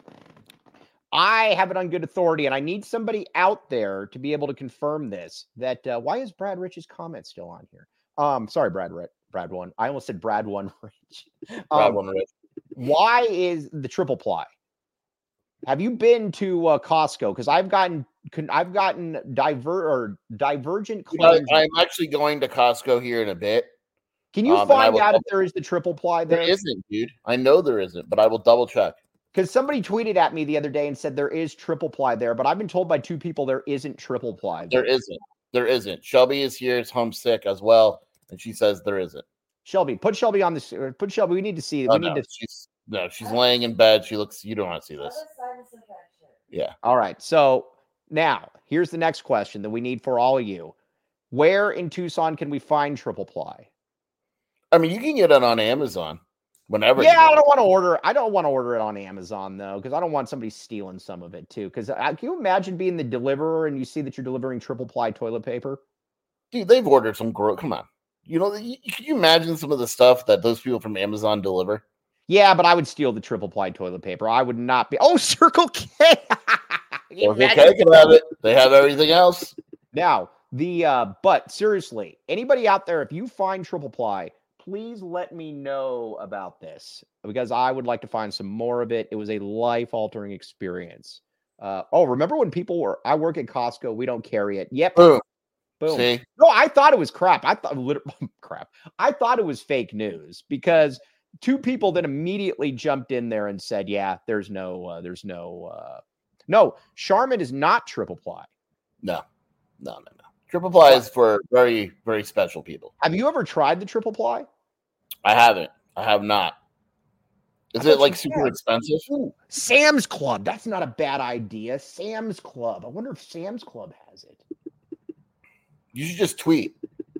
I have it on good authority, and I need somebody out there to be able to confirm this. That uh, why is Brad Rich's comment still on here? Um, sorry, Brad Rich. Brad one. I almost said Brad one Rich. Grab Um, one, Rich. why is the triple ply? Have you been to uh, Costco? Because I've gotten con- I've gotten diver or divergent You know, claims. I'm actually going to Costco here in a bit. Can you um, and I find will out if double- there is the triple ply There there? isn't, dude. I know there isn't, but I will double check. Because somebody tweeted at me the other day and said there is triple ply there, but I've been told by two people there isn't triple ply there. There isn't. There isn't. Shelby is here. Is homesick as well, and she says there isn't. Shelby, put Shelby on this. uh, Put Shelby. We need to see. Oh, We need no, to. she's no, she's laying in bed. She looks. You don't want to see this. Yeah. All right. So now here's the next question that we need for all of you. Where in Tucson can we find triple ply? I mean, you can get it on Amazon whenever. Yeah, you I want. don't want to order. I don't want to order it on Amazon though, because I don't want somebody stealing some of it too. Because can you imagine being the deliverer and you see that you're delivering triple ply toilet paper? Dude, they've ordered some gro Come on. You know, you, can you imagine some of the stuff that those people from Amazon deliver? Yeah, but I would steal the triple ply toilet paper. I would not be. Oh, Circle K. Can you Circle imagine? K can have it. They have everything else. Now, the uh, but seriously, anybody out there, if you find triple ply, please let me know about this because I would like to find some more of it. It was a life-altering experience. Uh, oh, remember when people were, I work at Costco, we don't carry it. Yep. Boom. Boom. See? No, I thought it was crap. I thought literally crap. I thought it was fake news because two people then immediately jumped in there and said, yeah, there's no, uh, there's no, uh, no, Charmin is not triple ply. No, no, no, no. Triple ply is for very, very special people. Have you ever tried the triple ply? I haven't. I have not. Is I it thought like you super had. expensive? Ooh, Sam's Club. That's not a bad idea. Sam's Club. I wonder if Sam's Club has it. You should just tweet.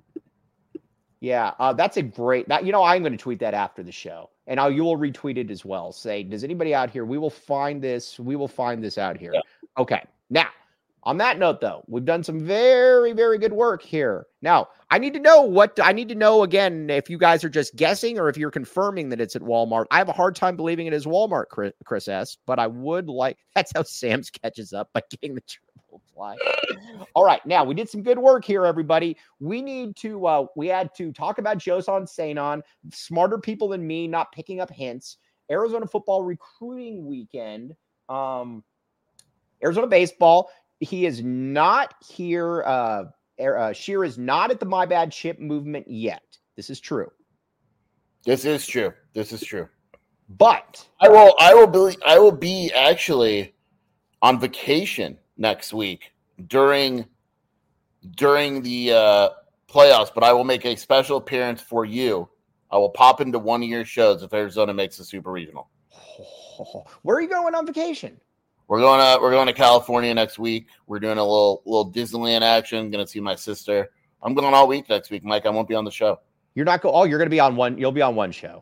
Yeah, uh, that's a great. That you know, I'm going to tweet that after the show, and I'll, you will retweet it as well. Say, does anybody out here? We will find this. We will find this out here. Yeah. Okay. Now, on that note, though, we've done some very, very good work here. Now, I need to know what I need to know again. If you guys are just guessing, or if you're confirming that it's at Walmart, I have a hard time believing it is Walmart, Chris, Chris S. But I would like. That's how Sam's catches up by getting the triple ply. All right, now we did some good work here, everybody. We need to. Uh, we had to talk about Joson Sanon. Smarter people than me not picking up hints. Arizona football recruiting weekend. Um, Arizona baseball. He is not here. Uh, uh, Shear is not at the My Bad Chip movement yet. This is true. This is true. This is true. But I will. I will be. I will be actually on vacation next week during during the uh, playoffs. But I will make a special appearance for you. I will pop into one of your shows if Arizona makes a super regional. Where are you going on vacation? We're going to we're going to California next week. We're doing a little little Disneyland action. Going to see my sister. I'm going all week next week, Mike. I won't be on the show. You're not go. Oh, you're going to be on one. You'll be on one show.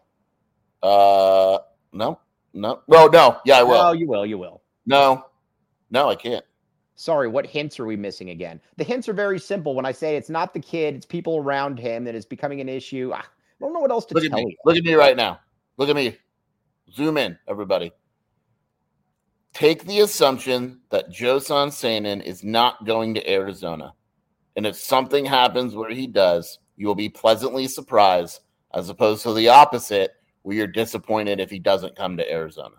Uh, no, no. Well, no. Yeah, I will. No, you will. You will. No, no, I can't. Sorry, what hints are we missing again? The hints are very simple. When I say it's not the kid, it's people around him that is becoming an issue. I don't know what else to Look at tell me. you. Look at me right now. Look at me. Zoom in, everybody. Take the assumption that Joson Sanon is not going to Arizona. And if something happens where he does, you will be pleasantly surprised, as opposed to the opposite, where you're disappointed if he doesn't come to Arizona.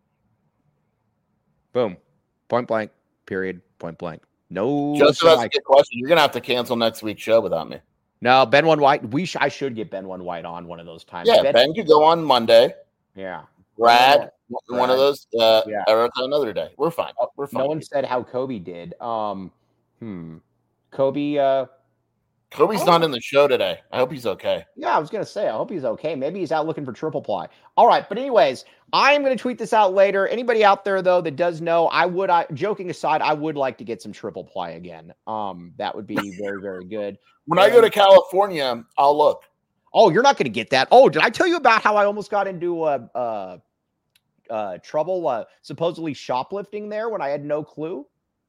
Boom. Point blank. Period. Point blank. No. Just that's a like, good question. You're going to have to cancel next week's show without me. no, Ben One White. We sh- I should get Ben One White on one of those times. Yeah, Ben, Ben could go on Monday. yeah. Brad, one Brad. of those. Uh, Yeah. Erica, another day. We're fine. We're fine. No one said how Kobe did. Um, hmm. Kobe, uh, Kobe's Oh. not in the show today. I hope he's okay. yeah, I was going to say, I hope he's okay. Maybe he's out looking for triple ply. All right. But anyways, I'm going to tweet this out later. Anybody out there, though, that does know, I would, I, joking aside, I would like to get some triple ply again. Um, that would be very, very good. When I go to California, I'll look. Oh, you're not going to get that. Oh, did I tell you about how I almost got into uh, uh, uh, trouble, uh, supposedly shoplifting there when I had no clue?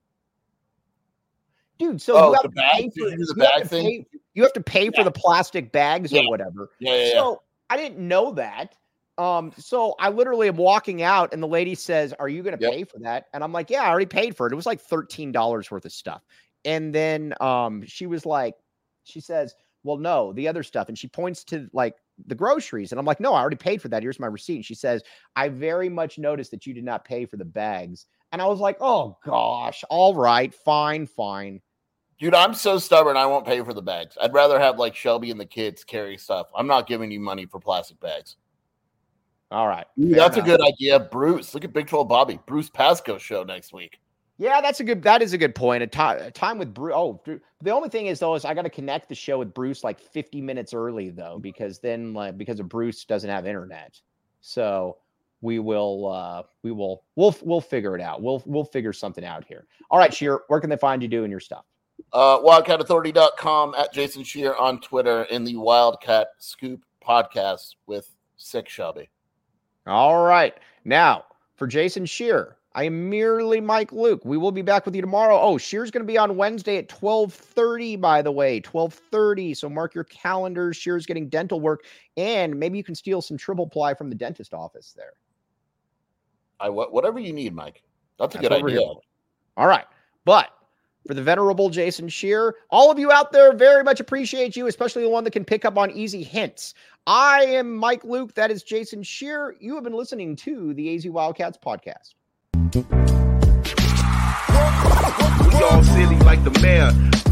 Dude, so Oh, you have the to bag? pay Did for, you do the you have bag to thing? pay- you have to pay for Yeah. the plastic bags Yeah. or whatever. Yeah, yeah, yeah. So I didn't know that. Um, so I literally am walking out and the lady says, "Are you going to Yep. pay for that?" And I'm like, "Yeah, I already paid for it." It was like thirteen dollars worth of stuff. And then um, she was like, she says, well, no, the other stuff. And she points to like the groceries. And I'm like, no, I already paid for that. Here's my receipt. And she says, I very much noticed that you did not pay for the bags. And I was like, oh gosh, all right, fine, fine. Dude, I'm so stubborn. I won't pay for the bags. I'd rather have like Shelby and the kids carry stuff. I'm not giving you money for plastic bags. All right. Ooh, that's enough. A good idea. Bruce, look at Big twelve Bobby. Bruce Pascoe show next week. Yeah, that's a good, that is a good point. A, t- a time with Bruce. Oh, the only thing is though, is I got to connect the show with Bruce like fifty minutes early though, because then like, because of Bruce doesn't have internet. So we will, uh, we will, we'll, we'll figure it out. We'll, we'll figure something out here. All right, Sheer, where can they find you doing your stuff? Uh, wildcat authority dot com, at Jason Shear on Twitter, in the Wildcat Scoop podcast with Sick Shelby. All right. Now, for Jason Shear, I am merely Mike Luke. We will be back with you tomorrow. Oh, Shear's going to be on Wednesday at twelve thirty, by the way, twelve thirty. So mark your calendars. Shear's getting dental work, and maybe you can steal some triple ply from the dentist office there. I whatever you need, Mike. That's a That's good idea. All right. But for the venerable Jason Shear, all of you out there, very much appreciate you, especially the one that can pick up on easy hints. I am Mike Luke. That is Jason Shear. You have been listening to the A Z Wildcats podcast. We all silly like the mayor.